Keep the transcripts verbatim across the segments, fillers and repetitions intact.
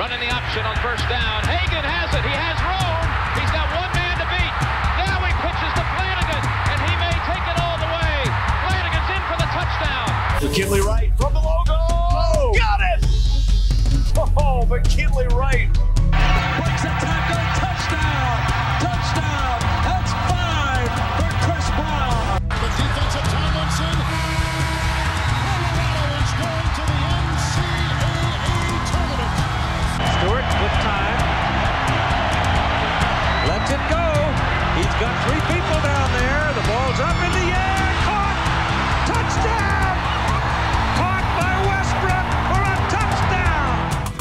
Running the option on first down. Hagan has it. He has room. He's got one man to beat. Now he pitches to Flanagan, and he may take it all the way. Flanagan's in for the touchdown. McKinley Wright from the logo. Oh, got it! Oh, McKinley Wright. Breaks a tackle. Touchdown. Touchdown. That's five for Chris Brown. The defensive Tomlinson. Colorado is going to the N C double A tournament. Stewart with time. Lets it go. He's got three people down there. The ball's up in the air. Caught. Touchdown. Caught by Westbrook for a touchdown.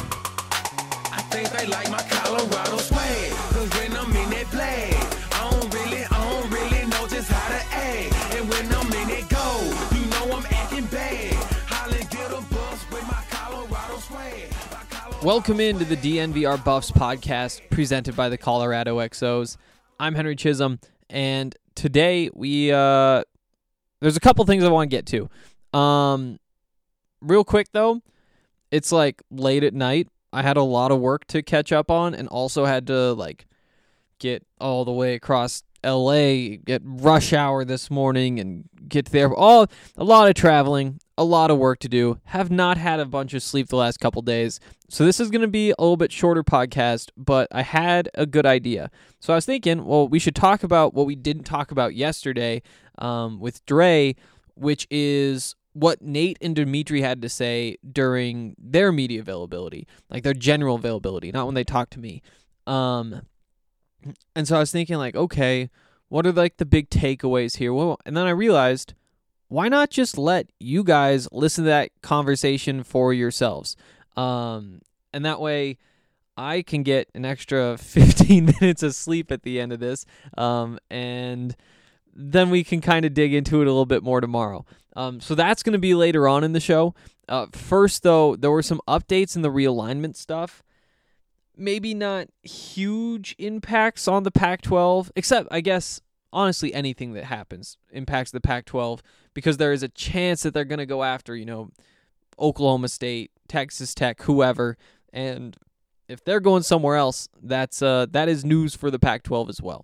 I think they like my Colorado swag. Cause when I'm in that play, I don't really, I don't really know just how to act. And when I'm in it go, you know I'm acting bad. Holly get a bus with my Colorado swag. My Colorado Welcome into the D N V R Buffs podcast presented by the Colorado X Os. I'm Henry Chisholm, and today we uh, there's a couple things I want to get to. Um, real quick though, it's like late at night. I had a lot of work to catch up on, and also had to like get all the way across L A, get rush hour this morning, and get there. All a lot of traveling, a lot of work to do. Have not had a bunch of sleep the last couple days, so this is going to be a little bit shorter podcast. But I had a good idea, so I was thinking, well, we should talk about what we didn't talk about yesterday um, with Dre, which is what Nate and Dimitri had to say during their media availability, like their general availability, not when they talked to me. Um, and so I was thinking, like, okay, what are like the big takeaways here? Well, and then I realized, why not just let you guys listen to that conversation for yourselves? Um, and that way I can get an extra fifteen minutes of sleep at the end of this. Um, and then we can kind of dig into it a little bit more tomorrow. Um, so that's going to be later on in the show. Uh, first, though, there were some updates in the realignment stuff. Maybe not huge impacts on the Pac twelve, except, I guess, honestly, anything that happens impacts the Pac twelve, because there is a chance that they're going to go after, you know, Oklahoma State, Texas Tech, whoever, and if they're going somewhere else, that's uh, that is news for the Pac twelve as well.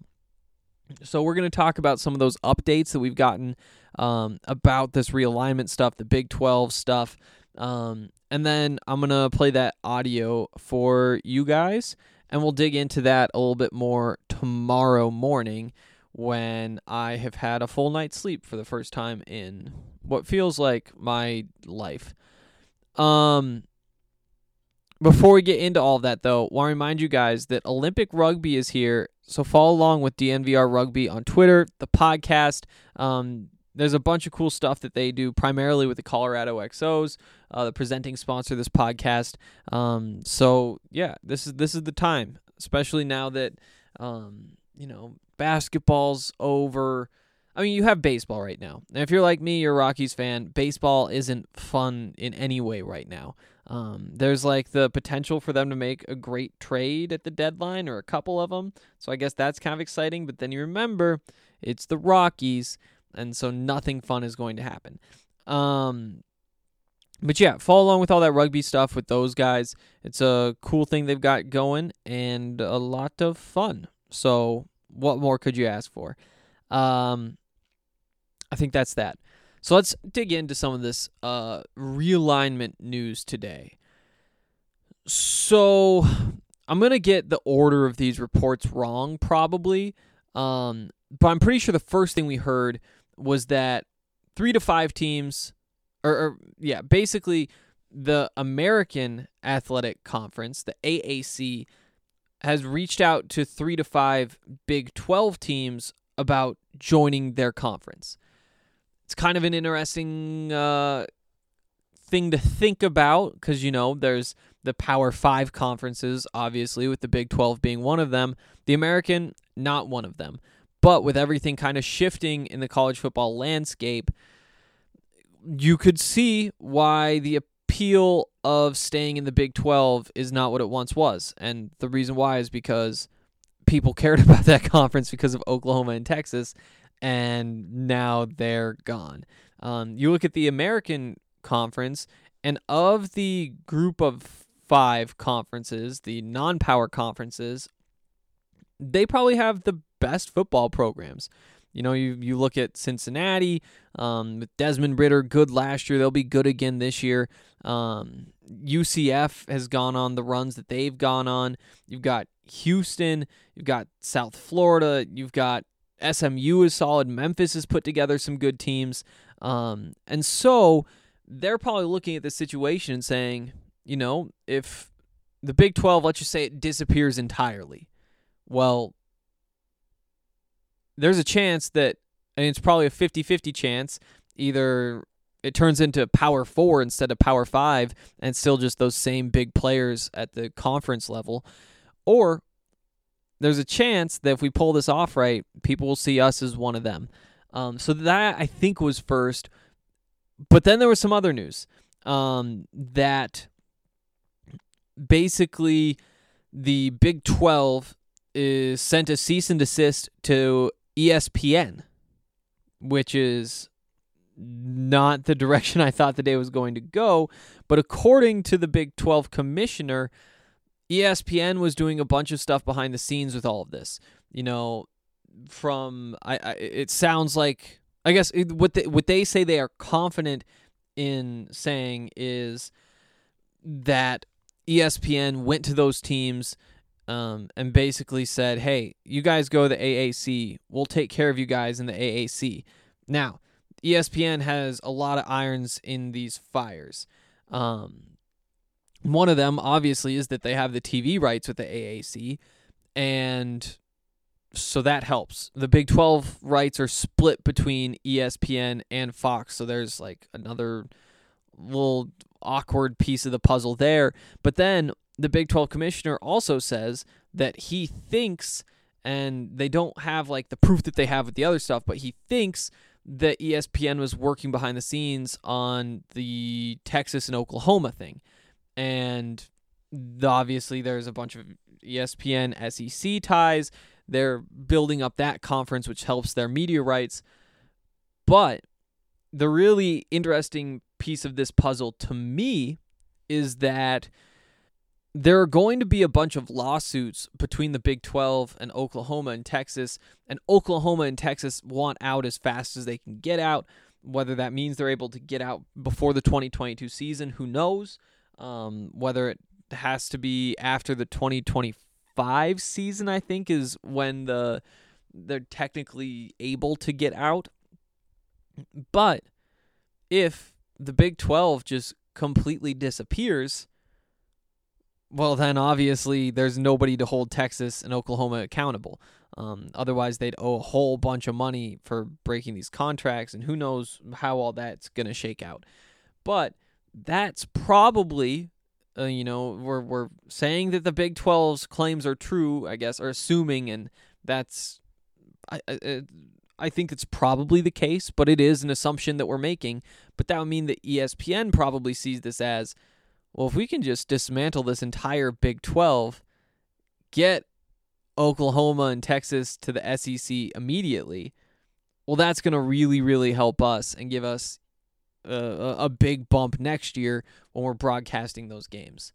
So we're going to talk about some of those updates that we've gotten um, about this realignment stuff, the Big twelve stuff, um, and then I'm going to play that audio for you guys, and we'll dig into that a little bit more tomorrow morning when I have had a full night's sleep for the first time in what feels like my life. Um, before we get into all of that, though, I want to remind you guys that Olympic Rugby is here. So follow along with D N V R Rugby on Twitter, the podcast. Um, there's a bunch of cool stuff that they do, primarily with the Colorado X Os, uh, the presenting sponsor of this podcast. Um, so yeah, this is this is the time, especially now that um, you know, basketball's over. I mean, you have baseball right now. And if you're like me, you're a Rockies fan, baseball isn't fun in any way right now. Um, there's like the potential for them to make a great trade at the deadline, or a couple of them. So I guess that's kind of exciting. But then you remember, it's the Rockies, and so nothing fun is going to happen. Um, but yeah, follow along with all that rugby stuff with those guys. It's a cool thing they've got going, and a lot of fun. So what more could you ask for? Um, I think that's that. So let's dig into some of this uh, realignment news today. So I'm going to get the order of these reports wrong, probably. Um, but I'm pretty sure the first thing we heard was that three to five teams, or, or yeah, basically the American Athletic Conference, the A A C, has reached out to three to five Big twelve teams about joining their conference. It's kind of an interesting uh, thing to think about, because, you know, there's the Power Five conferences, obviously, with the Big twelve being one of them. The American, not one of them. But with everything kind of shifting in the college football landscape, you could see why the appeal of staying in the Big twelve is not what it once was. And the reason why is because people cared about that conference because of Oklahoma and Texas, and now they're gone. Um, you look at the American Conference, and of the group of five conferences, the non-power conferences, they probably have the best football programs. You know, you, you look at Cincinnati, um, with Desmond Ridder, good last year. They'll be good again this year. Um, U C F has gone on the runs that they've gone on. You've got Houston. You've got South Florida. You've got S M U is solid. Memphis has put together some good teams. Um, and so they're probably looking at this situation and saying, you know, if the Big twelve, let's just say it disappears entirely, well, there's a chance that, and it's probably a fifty-fifty chance, either it turns into Power Four instead of Power Five and still just those same big players at the conference level, or there's a chance that if we pull this off right, people will see us as one of them. Um, so that, I think, was first. But then there was some other news um, that basically the Big twelve is sent a cease and desist to E S P N, which is not the direction I thought the day was going to go. But according to the Big twelve commissioner, E S P N was doing a bunch of stuff behind the scenes with all of this. You know, from I, I it sounds like, I guess it, what they, what they say they are confident in saying is that E S P N went to those teams um, and basically said, hey, you guys go to the A A C. We'll take care of you guys in the A A C. Now, E S P N has a lot of irons in these fires. Um, one of them, obviously, is that they have the T V rights with the A A C, and so that helps. The Big twelve rights are split between E S P N and Fox, so there's like another little awkward piece of the puzzle there. But then the Big twelve commissioner also says that he thinks, and they don't have like the proof that they have with the other stuff, but he thinks that E S P N was working behind the scenes on the Texas and Oklahoma thing. And obviously there's a bunch of E S P N S E C ties. They're building up that conference, which helps their media rights. But the really interesting piece of this puzzle to me is that there are going to be a bunch of lawsuits between the Big twelve and Oklahoma and Texas, and Oklahoma and Texas want out as fast as they can get out. Whether that means they're able to get out before the twenty twenty-two season, who knows? Um, whether it has to be after the twenty twenty-five season, I think, is when the they're technically able to get out. But if the Big twelve just completely disappears, well, then obviously there's nobody to hold Texas and Oklahoma accountable. Um, otherwise, they'd owe a whole bunch of money for breaking these contracts, and who knows how all that's going to shake out. But that's probably, uh, you know, we're we're saying that the Big twelve's claims are true, I guess, or assuming, and that's, I, I, I think it's probably the case, but it is an assumption that we're making. But that would mean that E S P N probably sees this as, well, if we can just dismantle this entire Big twelve, get Oklahoma and Texas to the S E C immediately, well, that's going to really, really help us and give us a, a big bump next year when we're broadcasting those games.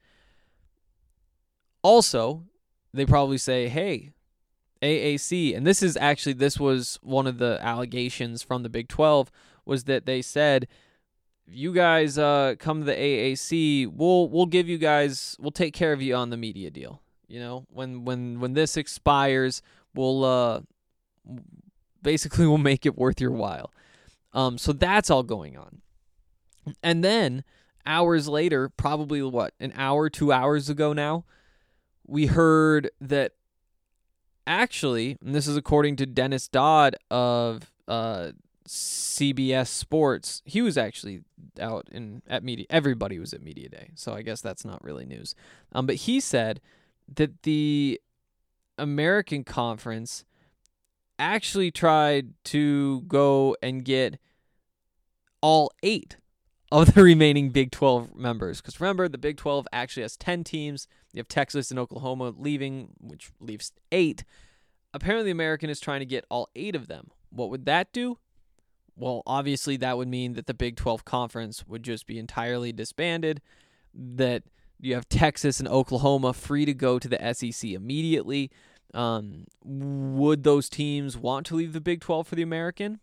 Also, they probably say, hey, A A C, and this is actually, this was one of the allegations from the Big twelve, was that they said, you guys uh, come to the A A C, we'll we'll give you guys, we'll take care of you on the media deal. You know, when when when this expires, we'll uh, basically we'll make it worth your while. Um, so that's all going on. And then hours later, probably what, an hour, two hours ago now, we heard that actually, and this is according to Dennis Dodd of uh, C B S Sports, he was actually out in at media. Everybody was at Media Day, so I guess that's not really news. Um, but he said that the American Conference actually tried to go and get all eight of the remaining Big twelve members. Because remember, the Big twelve actually has ten teams. You have Texas and Oklahoma leaving, which leaves eight. Apparently, the American is trying to get all eight of them. What would that do? Well, obviously, that would mean that the Big twelve Conference would just be entirely disbanded, that You have Texas and Oklahoma free to go to the S E C immediately. Um, would those teams want to leave the Big twelve for the American?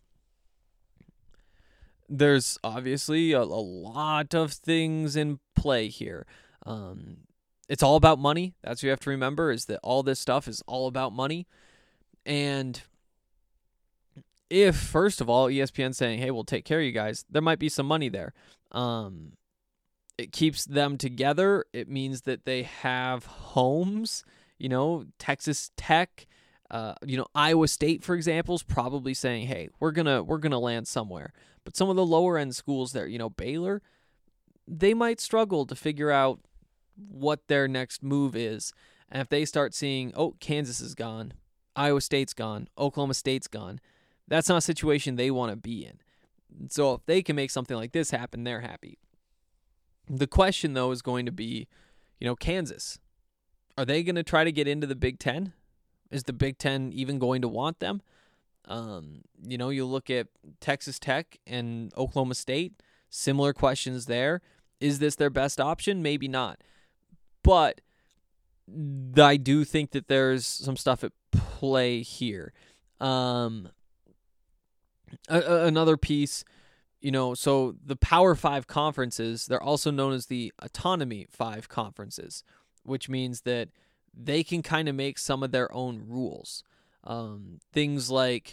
There's obviously a, a lot of things in play here. Um, it's all about money. That's what you have to remember, is that all this stuff is all about money. And if, first of all, E S P N's saying, hey, we'll take care of you guys, there might be some money there. Um, it keeps them together. It means that they have homes. You know, Texas Tech, uh, you know, Iowa State, for example, is probably saying, hey, we're gonna we're gonna land somewhere. But some of the lower end schools there, you know, Baylor, they might struggle to figure out what their next move is. And if they start seeing, oh, Kansas is gone, Iowa State's gone, Oklahoma State's gone, that's not a situation they want to be in. So if they can make something like this happen, they're happy. The question, though, is going to be, you know, Kansas. Are they going to try to get into the Big Ten? Is the Big Ten even going to want them? Um, you know, you look at Texas Tech and Oklahoma State, similar questions there. Is this their best option? Maybe not. But I do think that there's some stuff at play here. Um, a- a- another piece, you know, so the Power Five conferences, they're also known as the Autonomy Five conferences, which means that they can kind of make some of their own rules. Um, things like,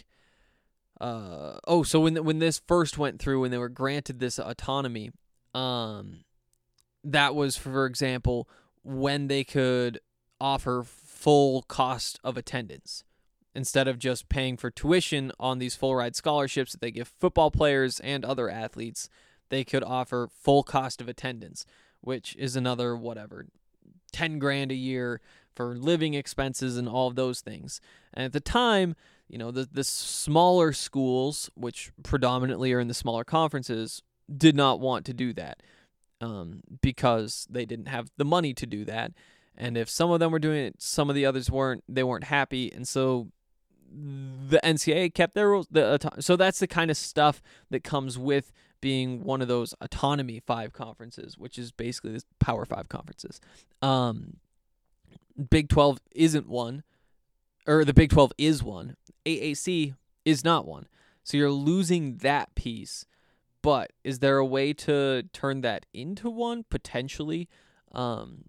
uh, oh, so when when this first went through, when they were granted this autonomy, um, that was, for example, when they could offer full cost of attendance. Instead of just paying for tuition on these full ride scholarships that they give football players and other athletes, they could offer full cost of attendance, which is another, whatever, ten grand a year for living expenses and all of those things. And at the time, you know, the, the smaller schools, which predominantly are in the smaller conferences, did not want to do that um, because they didn't have the money to do that. And if some of them were doing it, some of the others weren't, they weren't happy. And so the N C double A kept their rules. The, so that's the kind of stuff that comes with being one of those Autonomy Five conferences, which is basically this Power Five conferences. Um, Big twelve isn't one, or the Big twelve is one. A A C is not one. So you're losing that piece. But is there a way to turn that into one? Potentially. Um,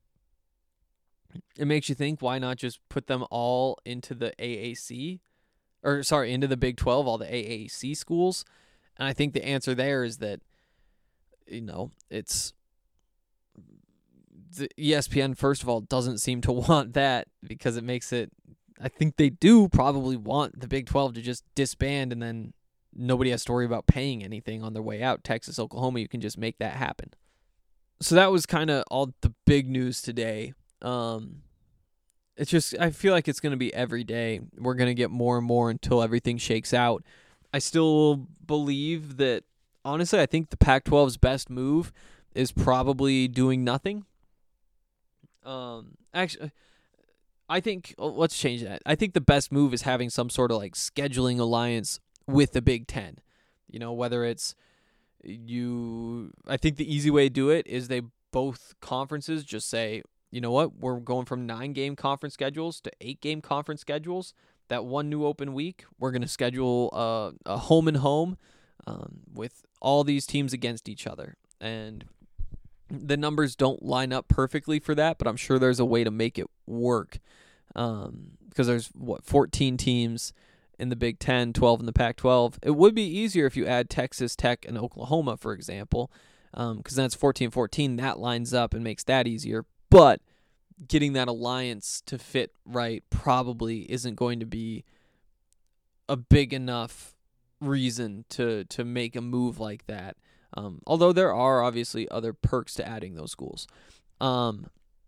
it makes you think, why not just put them all into the A A C? Or, sorry, into the Big twelve, all the A A C schools? And I think the answer there is that, you know, it's... the E S P N, first of all, doesn't seem to want that because it makes it... I think they do probably want the Big twelve to just disband and then nobody has to worry about paying anything on their way out. Texas, Oklahoma, you can just make that happen. So that was kind of all the big news today. Um, it's just, I feel like it's going to be every day. We're going to get more and more until everything shakes out. I still believe that, honestly, I think the Pac twelve's best move is probably doing nothing. Um, actually, I think, oh, let's change that. I think the best move is having some sort of like scheduling alliance with the Big Ten. You know, whether it's you, I think the easy way to do it is they both conferences just say, you know what, we're going from nine game conference schedules to eight game conference schedules. That one new open week, we're going to schedule a, a home and home um, with all these teams against each other. And the numbers don't line up perfectly for that, but I'm sure there's a way to make it work. Um, because there's, what, fourteen teams in the Big Ten, twelve in the Pac twelve. It would be easier if you add Texas Tech and Oklahoma, for example, um, because then it's fourteen fourteen. That lines up and makes that easier. But getting that alliance to fit right probably isn't going to be a big enough reason to, to make a move like that. Um, although there are obviously other perks to adding those schools. Um,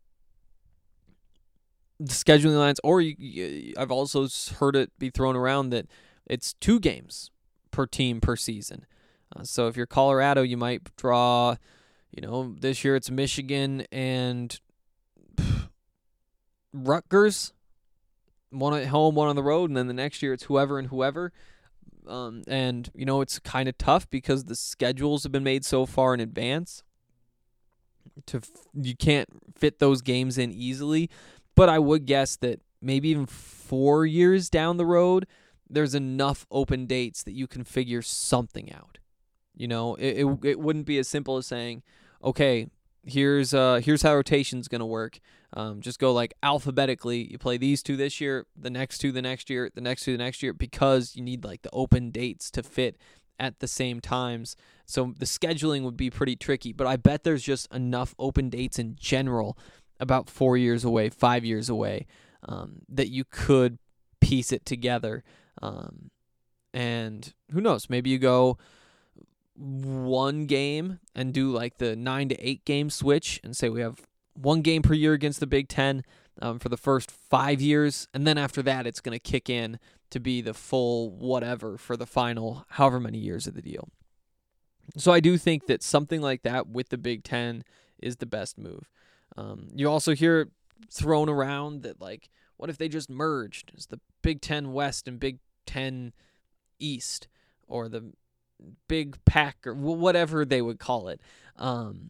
the scheduling lines, or you, you, I've also heard it be thrown around that it's two games per team per season. Uh, so if you're Colorado, you might draw, you know, this year it's Michigan and pff, Rutgers, one at home, one on the road, and then the next year it's whoever and whoever. Um, and, you know, it's kind of tough because the schedules have been made so far in advance. to f- you can't fit those games in easily. But I would guess that maybe even four years down the road, there's enough open dates that you can figure something out. You know, it it, it wouldn't be as simple as saying, okay, here's uh here's how rotation's gonna work. Um, just go like alphabetically. You play these two this year, the next two the next year, the next two the next year, because you need like the open dates to fit at the same times. So the scheduling would be pretty tricky. But I bet there's just enough open dates in general, about four years away, five years away, um, that you could piece it together. Um, and who knows? Maybe you go one game and do like the nine to eight game switch and say we have one game per year against the Big Ten um, for the first five years. And then after that, it's going to kick in to be the full whatever for the final however many years of the deal. So I do think that something like that with the Big Ten is the best move. Um, you also hear thrown around that, like, what if they just merged? It's the Big Ten West and Big Ten East, or the Big Pack, or whatever they would call it. Um,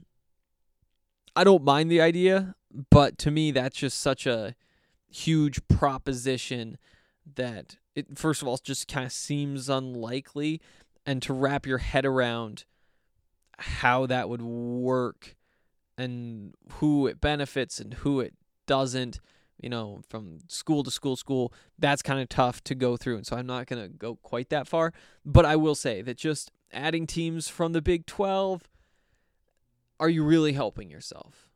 I don't mind the idea, but to me, that's just such a huge proposition that it, first of all, just kind of seems unlikely, and to wrap your head around how that would work and who it benefits and who it doesn't, you know, from school to school, school, that's kind of tough to go through. And so I'm not going to go quite that far. But I will say that just adding teams from the Big twelve, are you really helping yourself?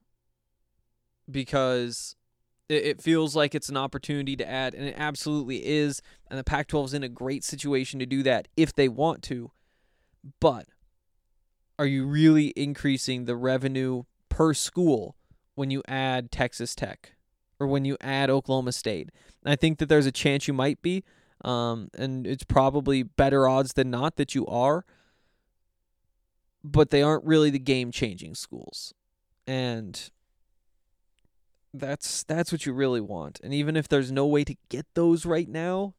Because it, it feels like it's an opportunity to add, and it absolutely is. And the Pac twelve is in a great situation to do that if they want to. But are you really increasing the revenue per school when you add Texas Tech or when you add Oklahoma State? And I think that there's a chance you might be, um, and it's probably better odds than not that you are, but they aren't really the game-changing schools. And that's that's what you really want. And even if there's no way to get those right now,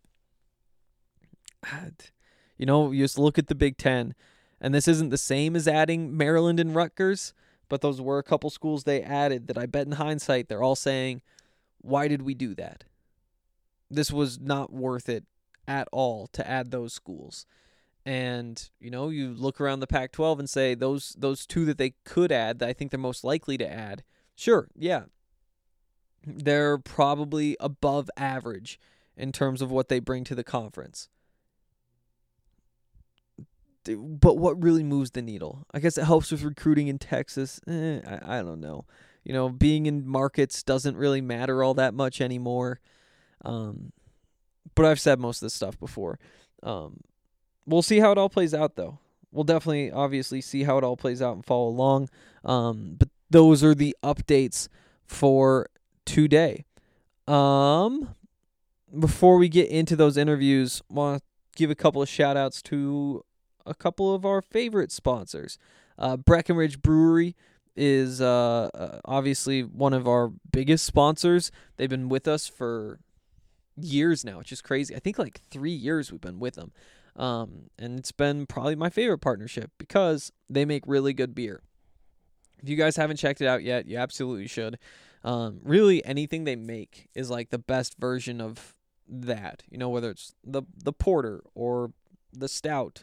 you know, you just look at the Big Ten, and this isn't the same as adding Maryland and Rutgers, but those were a couple schools they added that I bet in hindsight they're all saying, why did we do that? This was not worth it at all to add those schools. And, you know, you look around the Pac twelve and say those those two that they could add, that I think they're most likely to add, sure, yeah, they're probably above average in terms of what they bring to the conference. But what really moves the needle? I guess it helps with recruiting in Texas. Eh, I, I don't know. You know, being in markets doesn't really matter all that much anymore. Um, but I've said most of this stuff before. Um, we'll see how it all plays out, though. We'll definitely, obviously, see how it all plays out and follow along. Um, but those are the updates for today. Um, before we get into those interviews, I want to give a couple of shout-outs to a couple of our favorite sponsors. Uh, Breckenridge Brewery is uh, uh, obviously one of our biggest sponsors. They've been with us for years now, which is crazy. I think like three years we've been with them. Um, and it's been probably my favorite partnership because they make really good beer. If you guys haven't checked it out yet, you absolutely should. Um, really, anything they make is like the best version of that. You know, whether it's the the porter or the stout.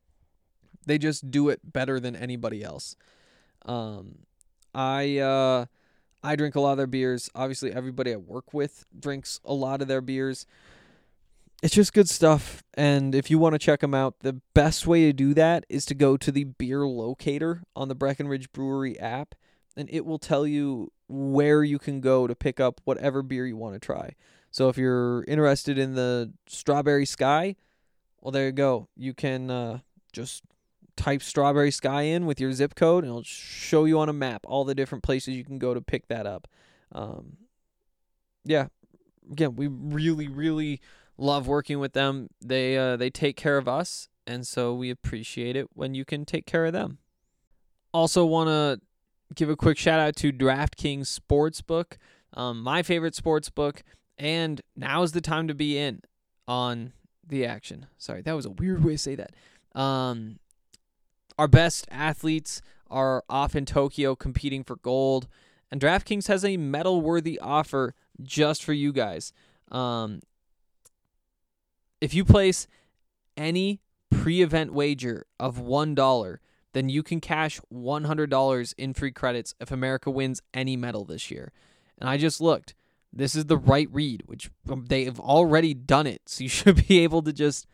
They just do it better than anybody else. Um, I uh, I drink a lot of their beers. Obviously, everybody I work with drinks a lot of their beers. It's just good stuff. And if you want to check them out, the best way to do that is to go to the beer locator on the Breckenridge Brewery app, and it will tell you where you can go to pick up whatever beer you want to try. So if you're interested in the Strawberry Sky, well, there you go. You can uh, just type Strawberry Sky in with your zip code, and it'll show you on a map all the different places you can go to pick that up. Um, yeah, again, we really, really love working with them. They uh, they take care of us, and so we appreciate it when you can take care of them. Also want to give a quick shout out to DraftKings Sportsbook, um, my favorite sportsbook, and now's the time to be in on the action. Sorry, that was a weird way to say that. Um, our best athletes are off in Tokyo competing for gold, and DraftKings has a medal-worthy offer just for you guys. Um, if you place any pre-event wager of one dollar, then you can cash one hundred dollars in free credits if America wins any medal this year. And I just looked. This is the right read, which they've already done it, so you should be able to just...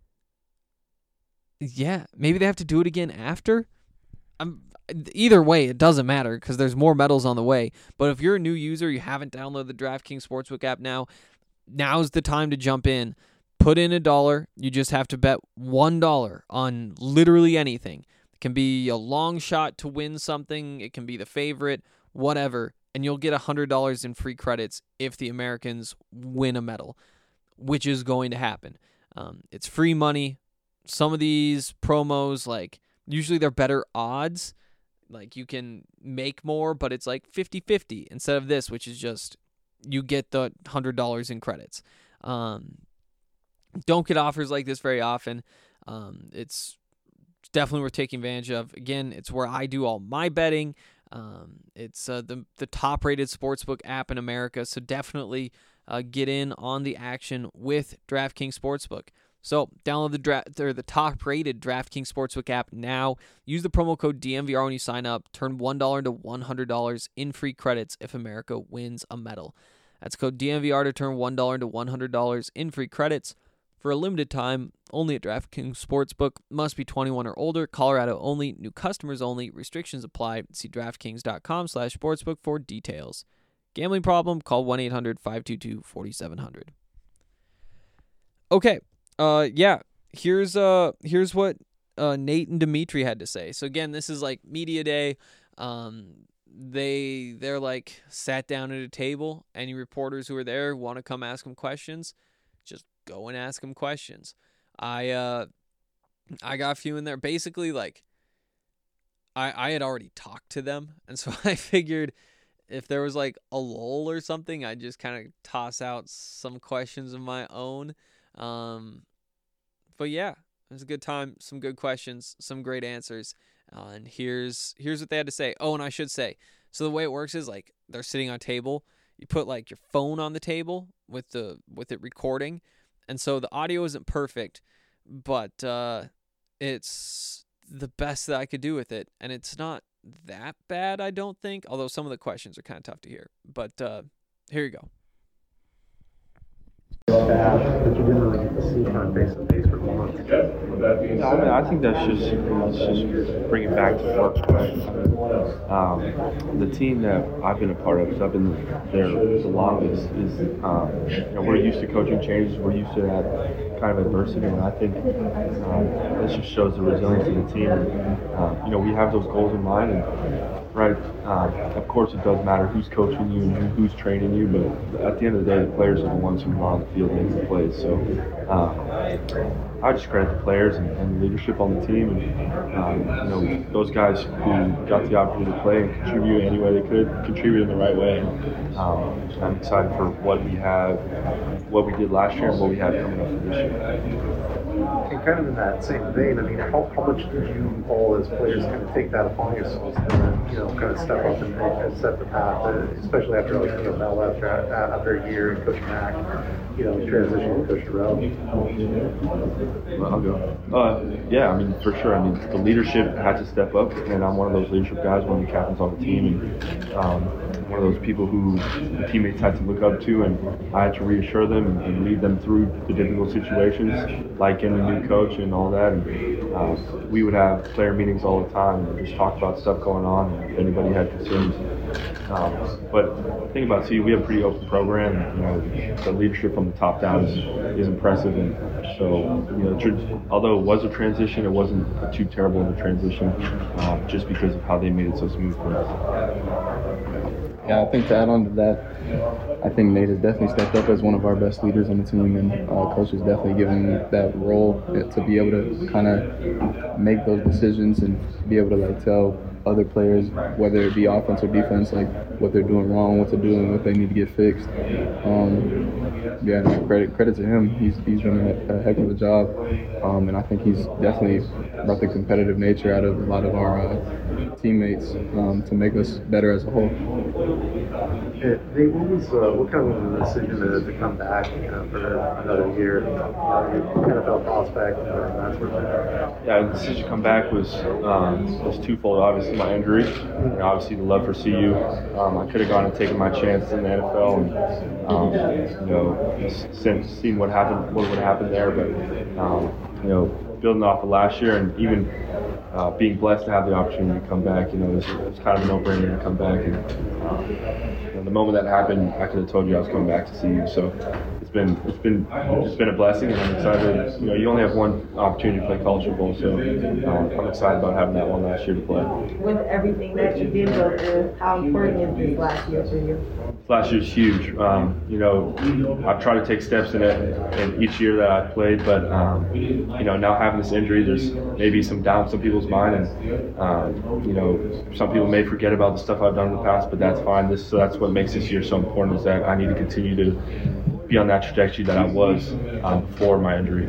Yeah, maybe they have to do it again after? I'm, either way, it doesn't matter because there's more medals on the way. But if you're a new user, you haven't downloaded the DraftKings Sportsbook app now, now's the time to jump in. Put in a dollar. You just have to bet one dollar on literally anything. It can be a long shot to win something. It can be the favorite, whatever. And you'll get one hundred dollars in free credits if the Americans win a medal, which is going to happen. Um, it's free money. Some of these promos, like, usually they're better odds. Like, you can make more, but it's like fifty-fifty instead of this, which is just you get the one hundred dollars in credits. Um, don't get offers like this very often. Um, it's definitely worth taking advantage of. Again, it's where I do all my betting. Um, it's uh, the, the top-rated sportsbook app in America, so definitely uh, get in on the action with DraftKings Sportsbook. So download the dra- or the top-rated DraftKings Sportsbook app now. Use the promo code D M V R when you sign up. Turn one dollar into one hundred dollars in free credits if America wins a medal. That's code D M V R to turn one dollar into one hundred dollars in free credits for a limited time. Only at DraftKings Sportsbook. Must be twenty-one or older. Colorado only. New customers only. Restrictions apply. See DraftKings.com slash sportsbook for details. Gambling problem? Call one eight hundred five two two four seven zero zero. Okay. Uh, yeah, here's uh here's what uh Nate and Dimitri had to say. So again, this is like media day. Um, they they're like sat down at a table. Any reporters who are there want to come ask them questions, just go and ask them questions. I uh I got a few in there. Basically, like I I had already talked to them, and so I figured if there was like a lull or something, I'd just kind of toss out some questions of my own. Um, but yeah, it was a good time. Some good questions, some great answers. Uh, and here's, here's what they had to say. Oh, and I should say, so the way it works is like they're sitting on a table. You put like your phone on the table with the, with it recording. And so the audio isn't perfect, but, uh, it's the best that I could do with it. And it's not that bad, I don't think, although some of the questions are kind of tough to hear, but, uh, here you go. Staff that you didn't really get to see kind of face to face for months. No, I mean, I think that's just it's just bring it back to work. Um, the team that I've been a part of, because I've been there the longest, is um, you know, we're used to coaching changes. We're used to that kind of adversity, and I think um, this just shows the resilience of the team. And, um, you know, we have those goals in mind, and right, um, of course, it does matter who's coaching you and who's training you, but at the end of the day, the players are the ones who are on the field making the plays. So um, I just credit the players and, and the leadership on the team, and um, you know, those guys who got the opportunity to play and contribute any way they could, contribute in the right way. And, um, I'm excited for what we have, what we did last year, and what we have coming up for this year. And kind of in that same vein, I mean, how, how much did you all as players kind of take that upon yourselves and then, you know, kind of step up and, and set the path, uh, especially after, like, you know, Mel left uh, after a year and Coach Mack, you know, transitioning to Coach Terrell? Well, I'll go. Uh, yeah, I mean, for sure. I mean, the leadership had to step up, and I'm one of those leadership guys, one of the captains on the team, and um, one of those people who the teammates had to look up to, and I had to reassure them and, and lead them through the difficult situations, like in the new coach and all that. And uh, we would have player meetings all the time and just talk about stuff going on, and if anybody had concerns. Um, but the thing about C U, we have a pretty open program. You know, the leadership from the top down is, is impressive, and so, you know, tr- although it was a transition, it wasn't too terrible of a transition, uh, just because of how they made it so smooth for us. Yeah, I think to add on to that, I think Nate has definitely stepped up as one of our best leaders on the team, and uh, coach has definitely given him that role to be able to kind of make those decisions and be able to like tell other players, whether it be offense or defense, like what they're doing wrong, what to do, and what they need to get fixed. Um, yeah, no, credit credit to him. He's he's done a, a heck of a job, um, and I think he's definitely brought the competitive nature out of a lot of our uh, teammates um, to make us better as a whole. Yeah, Nate, what was uh, what kind of was the decision to, to come back you know, for another year? You know, N F L prospect and that sort of thing. Yeah, the decision to come back was um, was twofold. Obviously, my injury, and obviously the love for C U. Um, I could have gone and taken my chance in the N F L, and um, you know, since seeing what happened, what would happen there. But um, you know, building off of last year, and even uh, being blessed to have the opportunity to come back, you know, it's, it's kind of a no-brainer to come back. And um, you know, the moment that happened, I could have told you I was coming back to see you. So it's been it's been it's been a blessing, and I'm excited. You know, you only have one opportunity to play college football, so um, I'm excited about having that one last year to play. With everything that you did go through, how important is this last year for you? Last year's huge. Um, you know, I've tried to take steps in it in each year that I've played, but um, you know, now having this injury, there's maybe some doubt in some people's mind, and um, you know, some people may forget about the stuff I've done in the past, but that's fine. This so that's what makes this year so important, is that I need to continue to be on that trajectory that I was um, before my injury.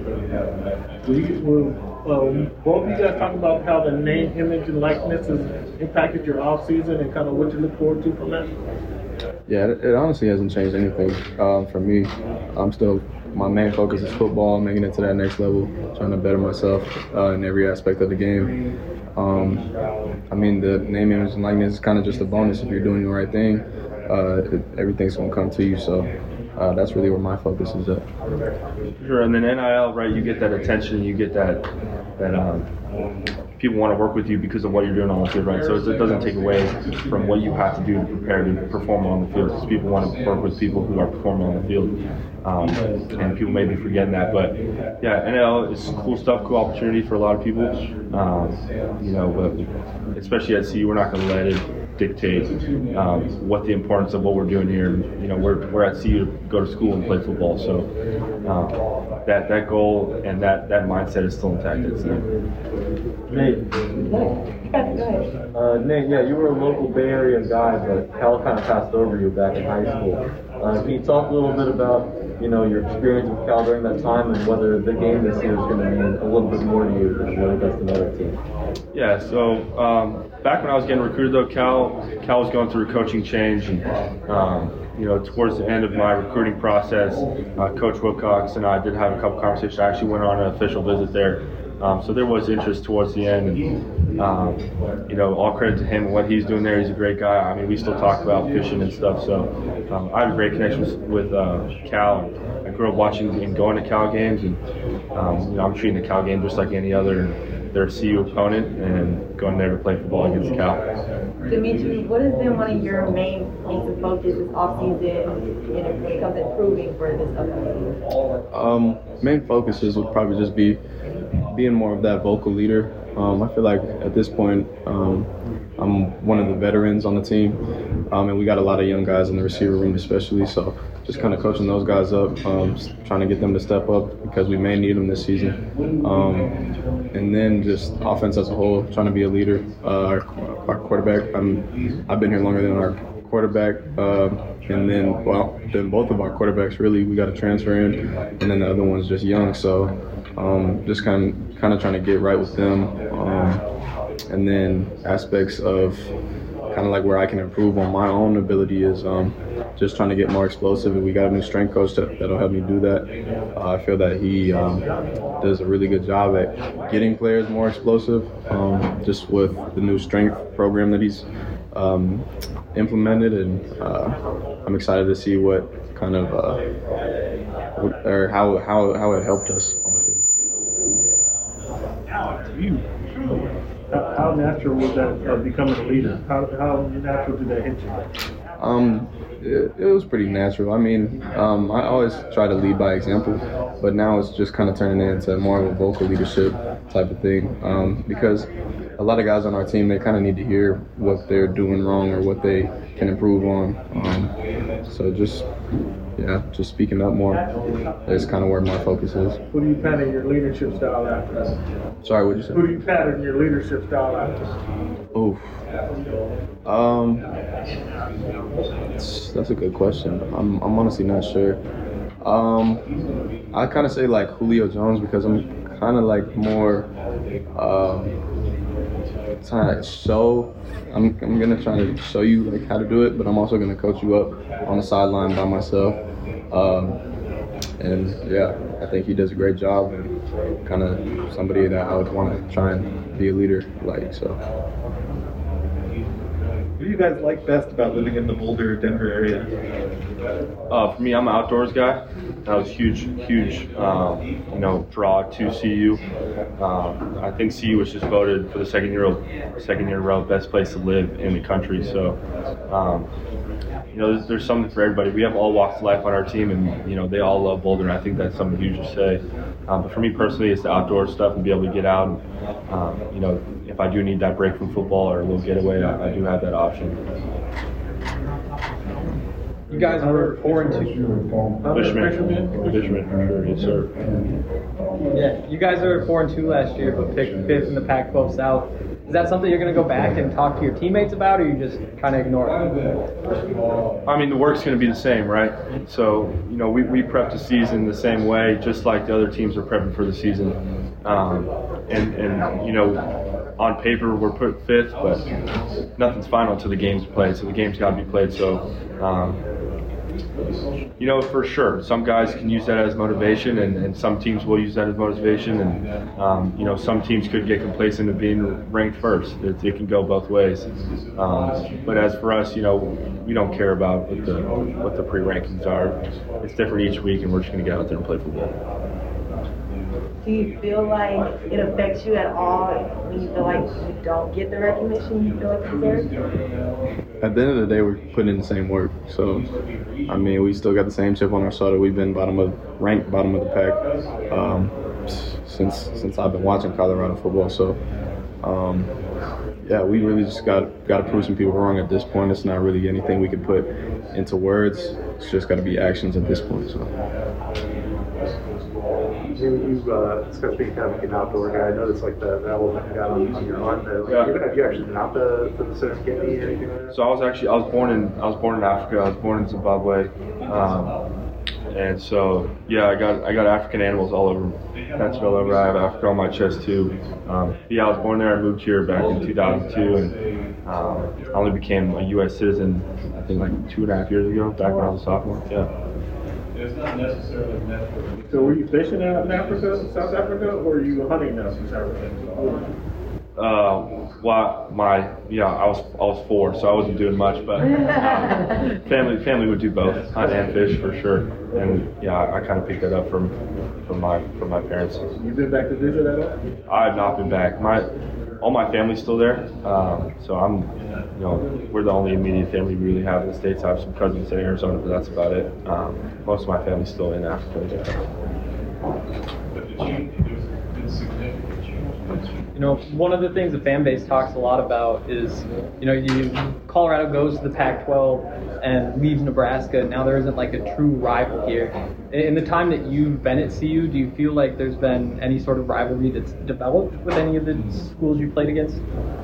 Um, both of you guys talk about how the name, image, and likeness has impacted your off season and kind of what you look forward to from that. Yeah, it, it honestly hasn't changed anything um, for me. I'm still, my main focus is football, making it to that next level, trying to better myself uh, in every aspect of the game. Um, I mean, the name, image, and likeness is kind of just a bonus if you're doing the right thing. Uh, it, everything's going to come to you, so uh, that's really where my focus is at. Sure, and then N I L, right, you get that attention, you get that, that um, people want to work with you because of what you're doing on the field, right? So it doesn't take away from what you have to do to prepare to perform on the field, because people want to work with people who are performing on the field. Um, and people may be forgetting that, but yeah, N L is cool stuff, cool opportunity for a lot of people. Um, you know, but especially at C U, we're not going to let it dictate um, what the importance of what we're doing here. You know, we're we're at C U to go to school and play football, so um, that that goal and that that mindset is still intact at C U. Nate. Uh, Nate, yeah, you were a local Bay Area guy, but Cal kind of passed over you back in high school. Uh, can you talk a little bit about, you know, your experience with Cal during that time, and whether the game this year is going to mean a little bit more to you than what it does to another team? Yeah, so um, back when I was getting recruited, though, Cal Cal was going through a coaching change, and um, you know, towards the end of my recruiting process, uh, Coach Wilcox and I did have a couple conversations. I actually went on an official visit there. Um, so there was interest towards the end, and um, you know, all credit to him and what he's doing there. He's a great guy. I mean, we still talk about fishing and stuff. So um, I have a great connection with, with uh, Cal. I grew up watching and going to Cal games, and um, you know, I'm treating the Cal game just like any other. Their C U opponent, and going there to play football against Cal. Dimitri, what has been one of your main things of focus this offseason, you know, when it comes to improving for this upcoming season? Um, main focuses would probably just be being more of that vocal leader. Um, I feel like at this point, um, I'm one of the veterans on the team, um, and we got a lot of young guys in the receiver room especially, so just kind of coaching those guys up, um, trying to get them to step up because we may need them this season. Um, and then just offense as a whole, trying to be a leader. Uh, our, our quarterback, I'm, I've been here longer than our quarterback, um, and then, well, then both of our quarterbacks really, we got to transfer in, and then the other one's just young, so um, just kind of, kind of trying to get right with them. Um, and then aspects of kind of like where I can improve on my own ability is um, just trying to get more explosive, and we got a new strength coach that, that'll help me do that. Uh, I feel that he um, does a really good job at getting players more explosive, um, just with the new strength program that he's um, implemented, and uh, I'm excited to see what kind of uh, what, or how how how it helped us. You. How, how natural was that uh, becoming a leader? How, how natural did that hit you? Um, it, it was pretty natural. I mean, um, I always try to lead by example, but now it's just kind of turning into more of a vocal leadership type of thing. Um, because a lot of guys on our team, they kind of need to hear what they're doing wrong or what they can improve on. Um, so just, yeah, just speaking up more is kind of where my focus is. Who do you pattern your leadership style after? Sorry, what'd you say? Who do you pattern your leadership style after? Oof. Um, that's, that's a good question. I'm, I'm honestly not sure. Um, I kind of say like Julio Jones because I'm kind of like more um, trying to show. I'm I'm gonna try to show you like how to do it, but I'm also gonna coach you up on the sideline by myself. Um, and yeah, I think he does a great job and kind of somebody that I would want to try and be a leader like so. What do you guys like best about living in the Boulder, Denver area? Uh, for me, I'm an outdoors guy. That was huge, huge, um, you know, draw to C U. Um, I think C U was just voted for the second year, second year in a row, best place to live in the country. So, um, you know, there's, there's something for everybody. We have all walks of life on our team, and you know, they all love Boulder. And I think that's something huge to say. Um, but for me personally, it's the outdoor stuff and be able to get out. And, um, you know, if I do need that break from football or a little getaway, I, I do have that option. You guys were four and two. Fishman, Fishman, for sure, yes sir. Yeah, you guys were four and two last year, but picked fifth in the Pac twelve South. Is that something you're going to go back and talk to your teammates about, or are you just trying to ignore it? I mean, the work's going to be the same, right? So, you know, we, we prep the season the same way, just like the other teams are prepping for the season. Um, and, and, you know, on paper we're put fifth, but nothing's final until the game's played. So the game's got to be played. So, um, you know, for sure, some guys can use that as motivation, and, and some teams will use that as motivation. And um, you know, some teams could get complacent of being ranked first. It, it can go both ways. Um, but as for us, you know, we don't care about what the what the pre-rankings are. It's different each week, and we're just going to get out there and play football. Do you feel like it affects you at all when you feel like you don't get the recognition you feel like you deserve? At the end of the day, we're putting in the same work. So, I mean, we still got the same chip on our shoulder. We've been bottom of ranked bottom of the pack um, since since I've been watching Colorado football. So, um, yeah, we really just got got to prove some people wrong at this point. It's not really anything we can put into words. It's just got to be actions at this point. So. You, uh, especially being kind of an outdoor guy, I noticed like the, the elephant you got on, on your arm. The, like, Yeah. Have you actually been out to, to the Serengeti or anything like that? So I was actually I was born in I was born in Africa. I was born in Zimbabwe, um, and so yeah, I got I got African animals all over, tattooed all over. I have Africa on my chest too. Um, yeah, I was born there. I moved here back in two thousand two, and um, I only became a U S citizen I think like two and a half years ago, back when I was a sophomore. Yeah. It's not necessarily natural. So were you fishing out in Africa, South Africa, or were you hunting out in South Africa? Uh, well, my yeah, I was I was four, so I wasn't doing much, but um, family family would do both, hunt and fish for sure. And yeah, I, I kind of picked that up from from my from my parents. You been back to visit at all? I have not been back. My all my family's still there, um, so I'm you know we're the only immediate family we really have in the States. I have some cousins in Arizona, but that's about it. Um, most of my family's still in Africa. You know, one of the things the fan base talks a lot about is, you know, you Colorado goes to the Pac twelve and leaves Nebraska. Now there isn't like a true rival here. In the time that you've been at C U, do you feel like there's been any sort of rivalry that's developed with any of the schools you played against?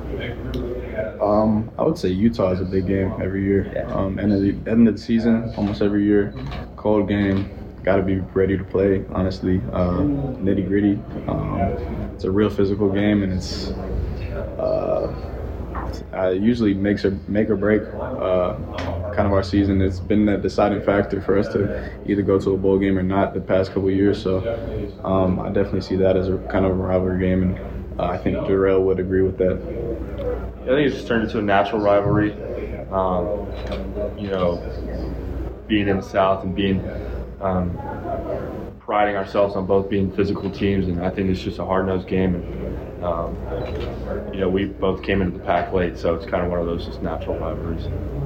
Um, I would say Utah is a big game every year. Um, end of the end of the season, almost every year, cold game. Got to be ready to play, honestly. Uh, nitty gritty. Um, it's a real physical game, and it's uh, uh, usually makes or make or break uh, kind of our season. It's been that deciding factor for us to either go to a bowl game or not the past couple of years. So um, I definitely see that as a kind of a rivalry game, and uh, I think Jarrell would agree with that. I think it's just turned into a natural rivalry. Um, you know, being in the South and being Um, priding ourselves on both being physical teams, and I think it's just a hard-nosed game. And um, you know, we both came into the pack late, so it's kind of one of those just natural rivalries.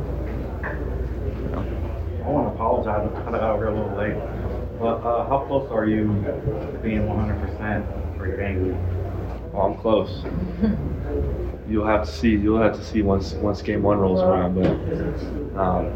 I want to apologize. I kind of got over a little late. But uh, how close are you to being one hundred percent for your game? Well, I'm close. You'll have to see. You'll have to see once once game one rolls around. But um,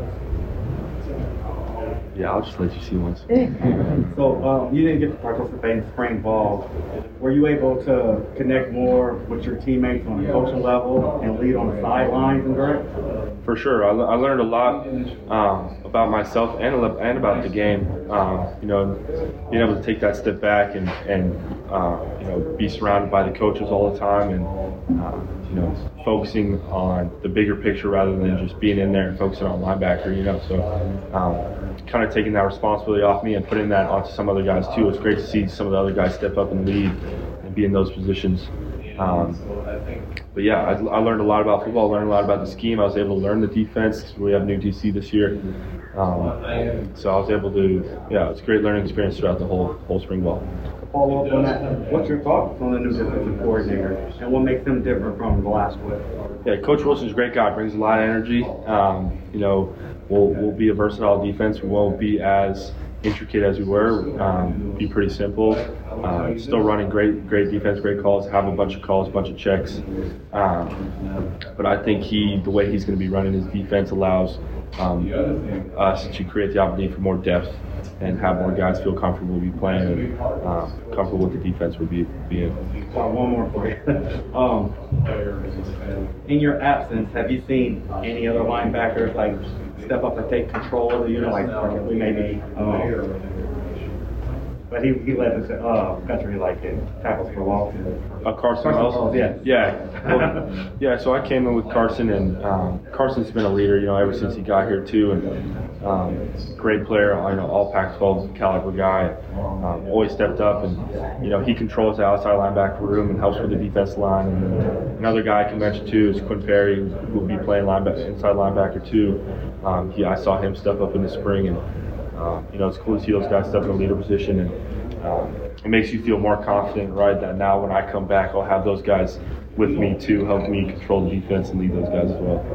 yeah, I'll just let you see once. So um, you didn't get to participate in spring ball. Were you able to connect more with your teammates on the coaching level and lead on the sidelines and direct? For sure, I, I learned a lot um, about myself and and about the game. Um, you know, being able to take that step back and and uh, you know be surrounded by the coaches all the time and uh, you know focusing on the bigger picture rather than just being in there and focusing on linebacker. You know, so um, kind of taking that responsibility off me and putting that onto some other guys too. It's great to see some of the other guys step up and lead and be in those positions. Um, but yeah, I, I learned a lot about football, learned a lot about the scheme. I was able to learn the defense. We have new D C this year. Um, so I was able to, yeah, it's a great learning experience throughout the whole whole spring ball. To follow up on that, what's your thoughts on the new defensive coordinator and what makes them different from the last one? Yeah, Coach Wilson's a great guy, brings a lot of energy. Um, you know, we'll, we'll be a versatile defense. We won't be as intricate as we were, um, be pretty simple. Uh, still running great, great defense, great calls. Have a bunch of calls, a bunch of checks. Um, but I think he, the way he's going to be running his defense, allows um, us to create the opportunity for more depth and have more guys feel comfortable be playing and uh, comfortable with the defense would be be in. Well, one more for you. um, in your absence, have you seen any other linebackers like step up and take control of the unit, like we maybe? Um, But he, he led the uh, country like in tackles for loss. Uh, Carson Wells? Yeah. Yeah. Well, yeah, so I came in with Carson, and um, Carson's been a leader, you know, ever since he got here, too. And um, great player, you know, all Pac twelve caliber guy. Um, always stepped up, and, you know, he controls the outside linebacker room and helps with the defense line. And another guy I can mention, too, is Quinn Perry, who will be playing linebacker, inside linebacker, too. Um, he, I saw him step up in the spring, and Um, you know, it's cool to see those guys step in a leader position, and um, it makes you feel more confident, right, that now when I come back, I'll have those guys with me too, help me control the defense and lead those guys as well.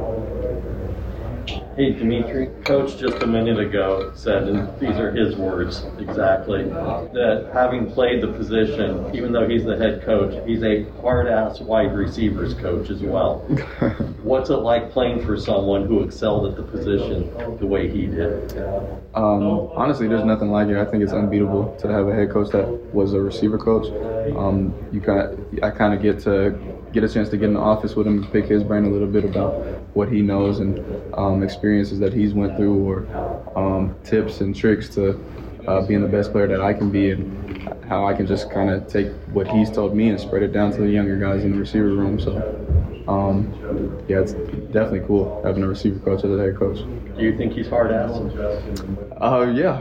Hey, Dimitri, Coach just a minute ago said, and these are his words exactly, that having played the position, even though he's the head coach, he's a hard-ass wide receivers coach as well. What's it like playing for someone who excelled at the position the way he did? Um, honestly, there's nothing like it. I think it's unbeatable to have a head coach that was a receiver coach. Um, you kind of, I kind of get to get a chance to get in the office with him and pick his brain a little bit about what he knows and um, experiences that he's went through, or um, tips and tricks to uh, being the best player that I can be, and how I can just kind of take what he's told me and spread it down to the younger guys in the receiver room. So, um, yeah, it's definitely cool having a receiver coach as a head coach. Do you think he's hard-ass? Uh, yeah.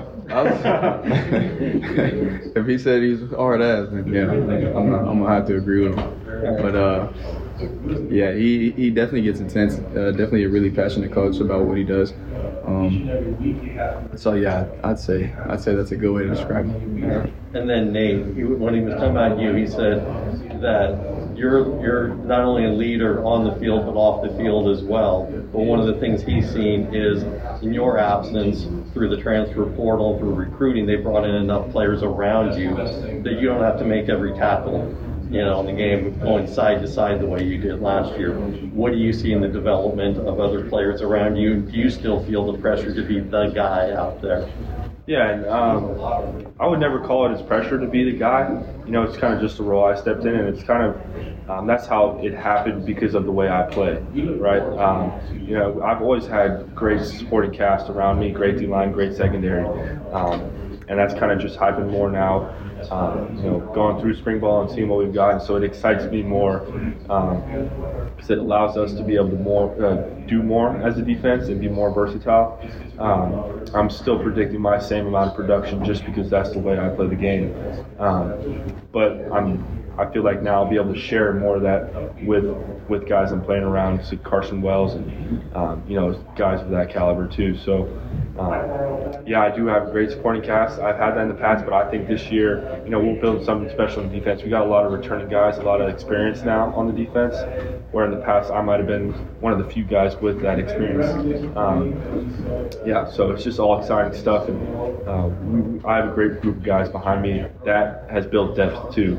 If he said he's hard-ass, then yeah, I'm, not, I'm gonna have to agree with him. But uh, yeah, he he definitely gets intense. Uh, definitely a really passionate coach about what he does. Um, so yeah, I'd say I'd say that's a good way to describe him. And then Nate, he, when he was talking about you, he said that you're you're not only a leader on the field but off the field as well. But one of the things he's seen is in your absence, through the transfer portal, through recruiting, they brought in enough players around you that you don't have to make every tackle, you know, in the game going side to side the way you did last year. What do you see in the development of other players around you? Do you still feel the pressure to be the guy out there? Yeah, and um, I would never call it as pressure to be the guy. You know, it's kind of just a role I stepped in, and it's kind of, um, that's how it happened because of the way I play, right? Um, you know, I've always had great supporting cast around me, great D-line, great secondary, um, and that's kind of just happened more now. Um, you know, going through spring ball and seeing what we've got, and so it excites me more um, because it allows us to be able to more uh, do more as a defense and be more versatile. Um, I'm still predicting my same amount of production just because that's the way I play the game. Um, but I'm, I feel like now I'll be able to share more of that with with guys I'm playing around, so Carson Wells and um, you know, guys of that caliber too. So. Um, yeah, I do have a great supporting cast. I've had that in the past, but I think this year, you know, we'll build something special in defense. We got a lot of returning guys, a lot of experience now on the defense, where in the past I might have been one of the few guys with that experience. Um, yeah, so it's just all exciting stuff, and uh, we, I have a great group of guys behind me that has built depth too.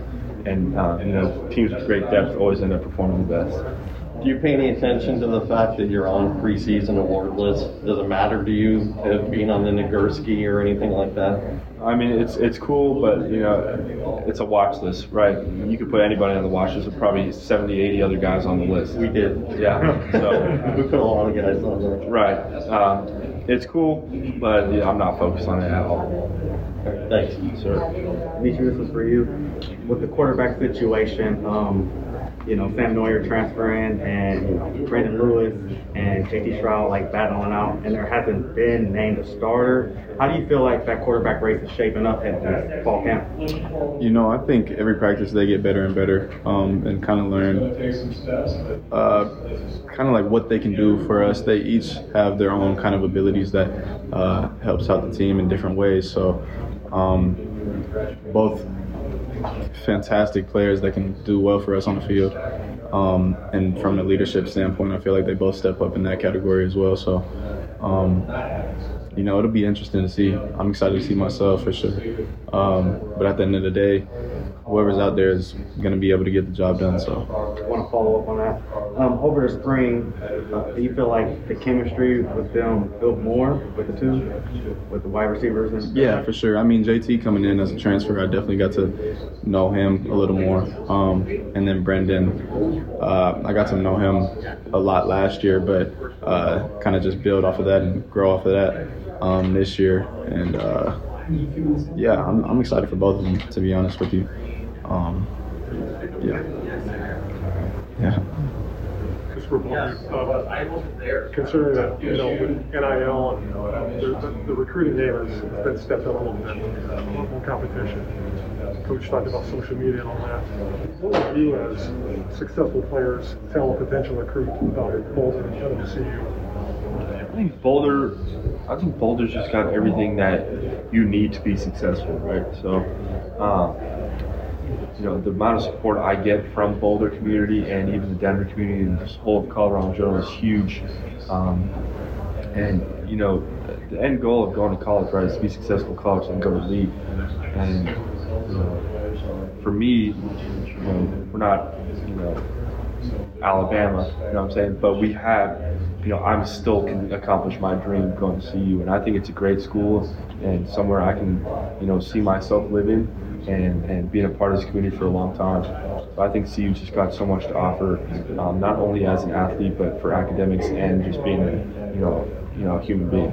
and uh, you know, teams with great depth always end up performing the best. Do you pay any attention to the fact that you're on preseason award list? Does it matter to you uh, being on the Nagurski or anything like that? I mean, it's it's cool, but you know, it's a watch list, right? You could put anybody on the watch list. There's probably seventy, eighty other guys on the list. We did. Yeah. So we put a lot of guys on there. Right. Um, it's cool, but yeah, I'm not focused on it at all. Thanks. Sir. Dimitri, this is for you. With the quarterback situation, um, you know, Sam Neuer transferring and, you know, Brandon Lewis and J T Stroud like battling out, and there hasn't been named a starter. How do you feel like that quarterback race is shaping up at this fall camp? You know, I think every practice they get better and better, um, and kind of learn uh, kind of like what they can do for us. They each have their own kind of abilities that uh, helps out the team in different ways. So um, both fantastic players that can do well for us on the field. Um, and from the leadership standpoint, I feel like they both step up in that category as well. So, um, you know, it'll be interesting to see. I'm excited to see myself for sure. Um, but at the end of the day, whoever's out there is going to be able to get the job done. So, I want to follow up on that. Um, over the spring, uh, do you feel like the chemistry with them built more with the two, with the wide receivers? And yeah, for sure. I mean, J T coming in as a transfer, I definitely got to know him a little more. Um, and then Brendan, uh, I got to know him a lot last year, but uh, kind of just build off of that and grow off of that um, this year. And uh, yeah, I'm, I'm excited for both of them, to be honest with you. Um, yeah. Yeah. Just for uh, considering that, you know, with N I L and uh, the, the recruiting game has been stepped up a little bit, more competition. Coach talked about social media and all that. What would you, as successful players, tell a potential recruit about Boulder coming to see you? I think Boulder, I think Boulder's just got everything that you need to be successful, right? So, um, you know, the amount of support I get from Boulder community and even the Denver community and this whole of Colorado in general is huge. Um, and, you know, the end goal of going to college, right, is to be successful in college and go to the league. And, you know, for me, you know, we're not, you know, Alabama, you know what I'm saying? But we have, you know, I'm still can accomplish my dream of going to C U. And I think it's a great school and somewhere I can, you know, see myself living and, and being a part of this community for a long time. So I think C U's just got so much to offer, um, not only as an athlete, but for academics and just being a, you know, you know, a human being.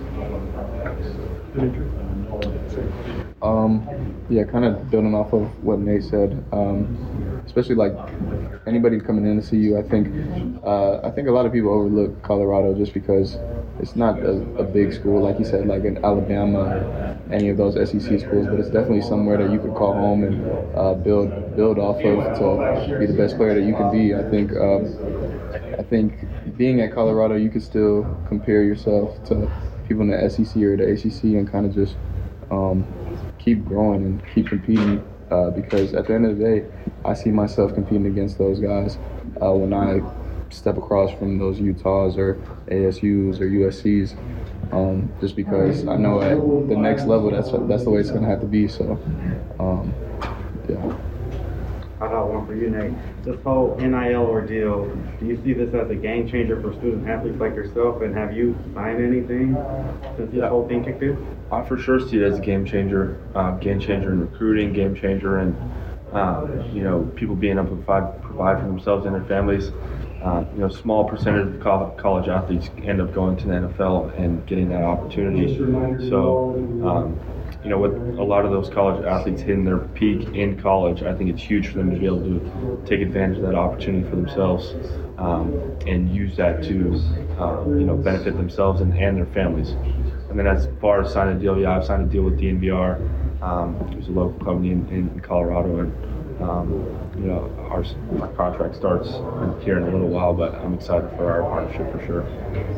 Um, yeah, kind of building off of what Nate said, um, especially like anybody coming in to see you, I think uh, I think a lot of people overlook Colorado just because it's not a, a big school, like you said, like in Alabama, any of those S E C schools, but it's definitely somewhere that you could call home and uh, build build off of to be the best player that you can be. I think um, I think being at Colorado, you could still compare yourself to people in the S E C or the A C C and kind of just um, keep growing and keep competing uh, because at the end of the day, I see myself competing against those guys uh, when I step across from those Utahs or A S Us or U S Cs, um, just because I know at the next level that's that's the way it's going to have to be. So, um, yeah. I got one for you, Nate. This whole N I L ordeal, do you see this as a game changer for student athletes like yourself, and have you signed anything since this Yeah. whole thing kicked in? I for sure see it as a game changer, uh, game changer in recruiting, game changer in, uh, you know, people being able to provide, provide for themselves and their families. Uh, you know, small percentage of col- college athletes end up going to the N F L and getting that opportunity. So, um, you know, with a lot of those college athletes hitting their peak in college, I think it's huge for them to be able to take advantage of that opportunity for themselves um, and use that to, uh, you know, benefit themselves and, and their families. And then as far as signing a deal, yeah, I've signed a deal with D N V R. Um, it's a local company in, in Colorado, and um, you know, our, our contract starts here in a little while, but I'm excited for our partnership for sure.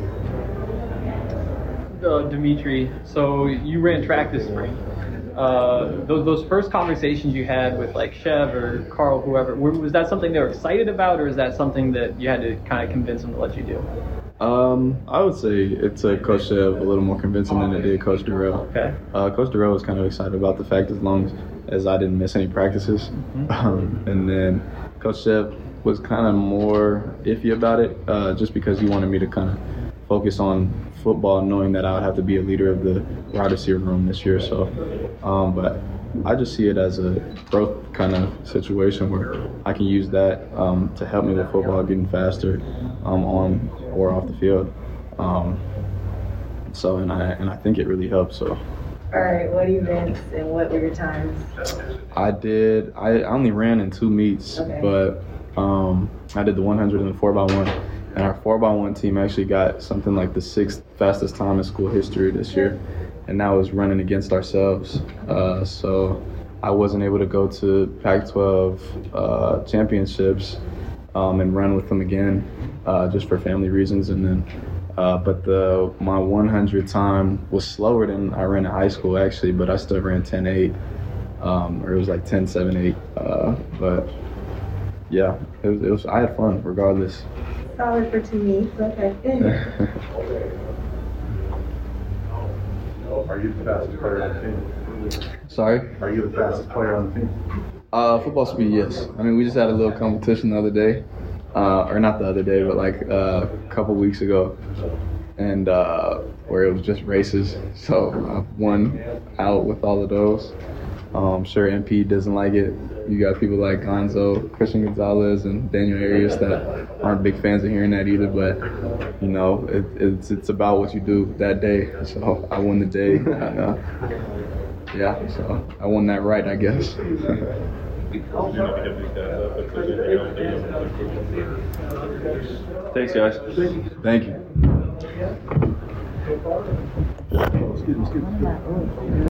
Uh, Dimitri, so you ran track this spring. Uh, those, those first conversations you had with like Chev or Carl, whoever, were, was that something they were excited about, or is that something that you had to kind of convince them to let you do? Um, I would say it took Coach Shev a little more convincing than it did Coach Durrell. Okay. Uh, Coach Durrell was kind of excited about the fact as long as, as I didn't miss any practices. Mm-hmm. Um, and then Coach Shev was kind of more iffy about it uh, just because he wanted me to kind of focus on football, knowing that I would have to be a leader of the wide receiver room this year. So, um, but I just see it as a growth kind of situation where I can use that um, to help me with football, getting faster um, on or off the field. Um, so, and I and I think it really helps. So. All right, what events and what were your times? I did. I only ran in two meets, Okay. but um, I did the one hundred and the four by one. And our four by one team actually got something like the sixth fastest time in school history this year. And that was running against ourselves. Uh, so I wasn't able to go to Pac twelve uh, championships um, and run with them again uh, just for family reasons. And then, uh, but the my one hundred time was slower than I ran in high school actually, but I still ran ten eight, um, or it was like ten seven eight. Uh, but yeah, it was, it was. I had fun regardless. Solid for two meets. Okay. Are you the fastest player on the team? Sorry? Are you the fastest player on the team? Uh, football speed, yes. I mean, we just had a little competition the other day, uh, or not the other day, but like uh, a couple weeks ago, and uh, where it was just races. So I won out with all of those. Um, I'm sure M P doesn't like it. You got people like Gonzo, Christian Gonzalez, and Daniel Arias that aren't big fans of hearing that either. But you know, it, it's it's about what you do that day. So I won the day. And, uh, yeah, so I won that right, I guess. Thanks, guys. Thank you. Excuse me, excuse me.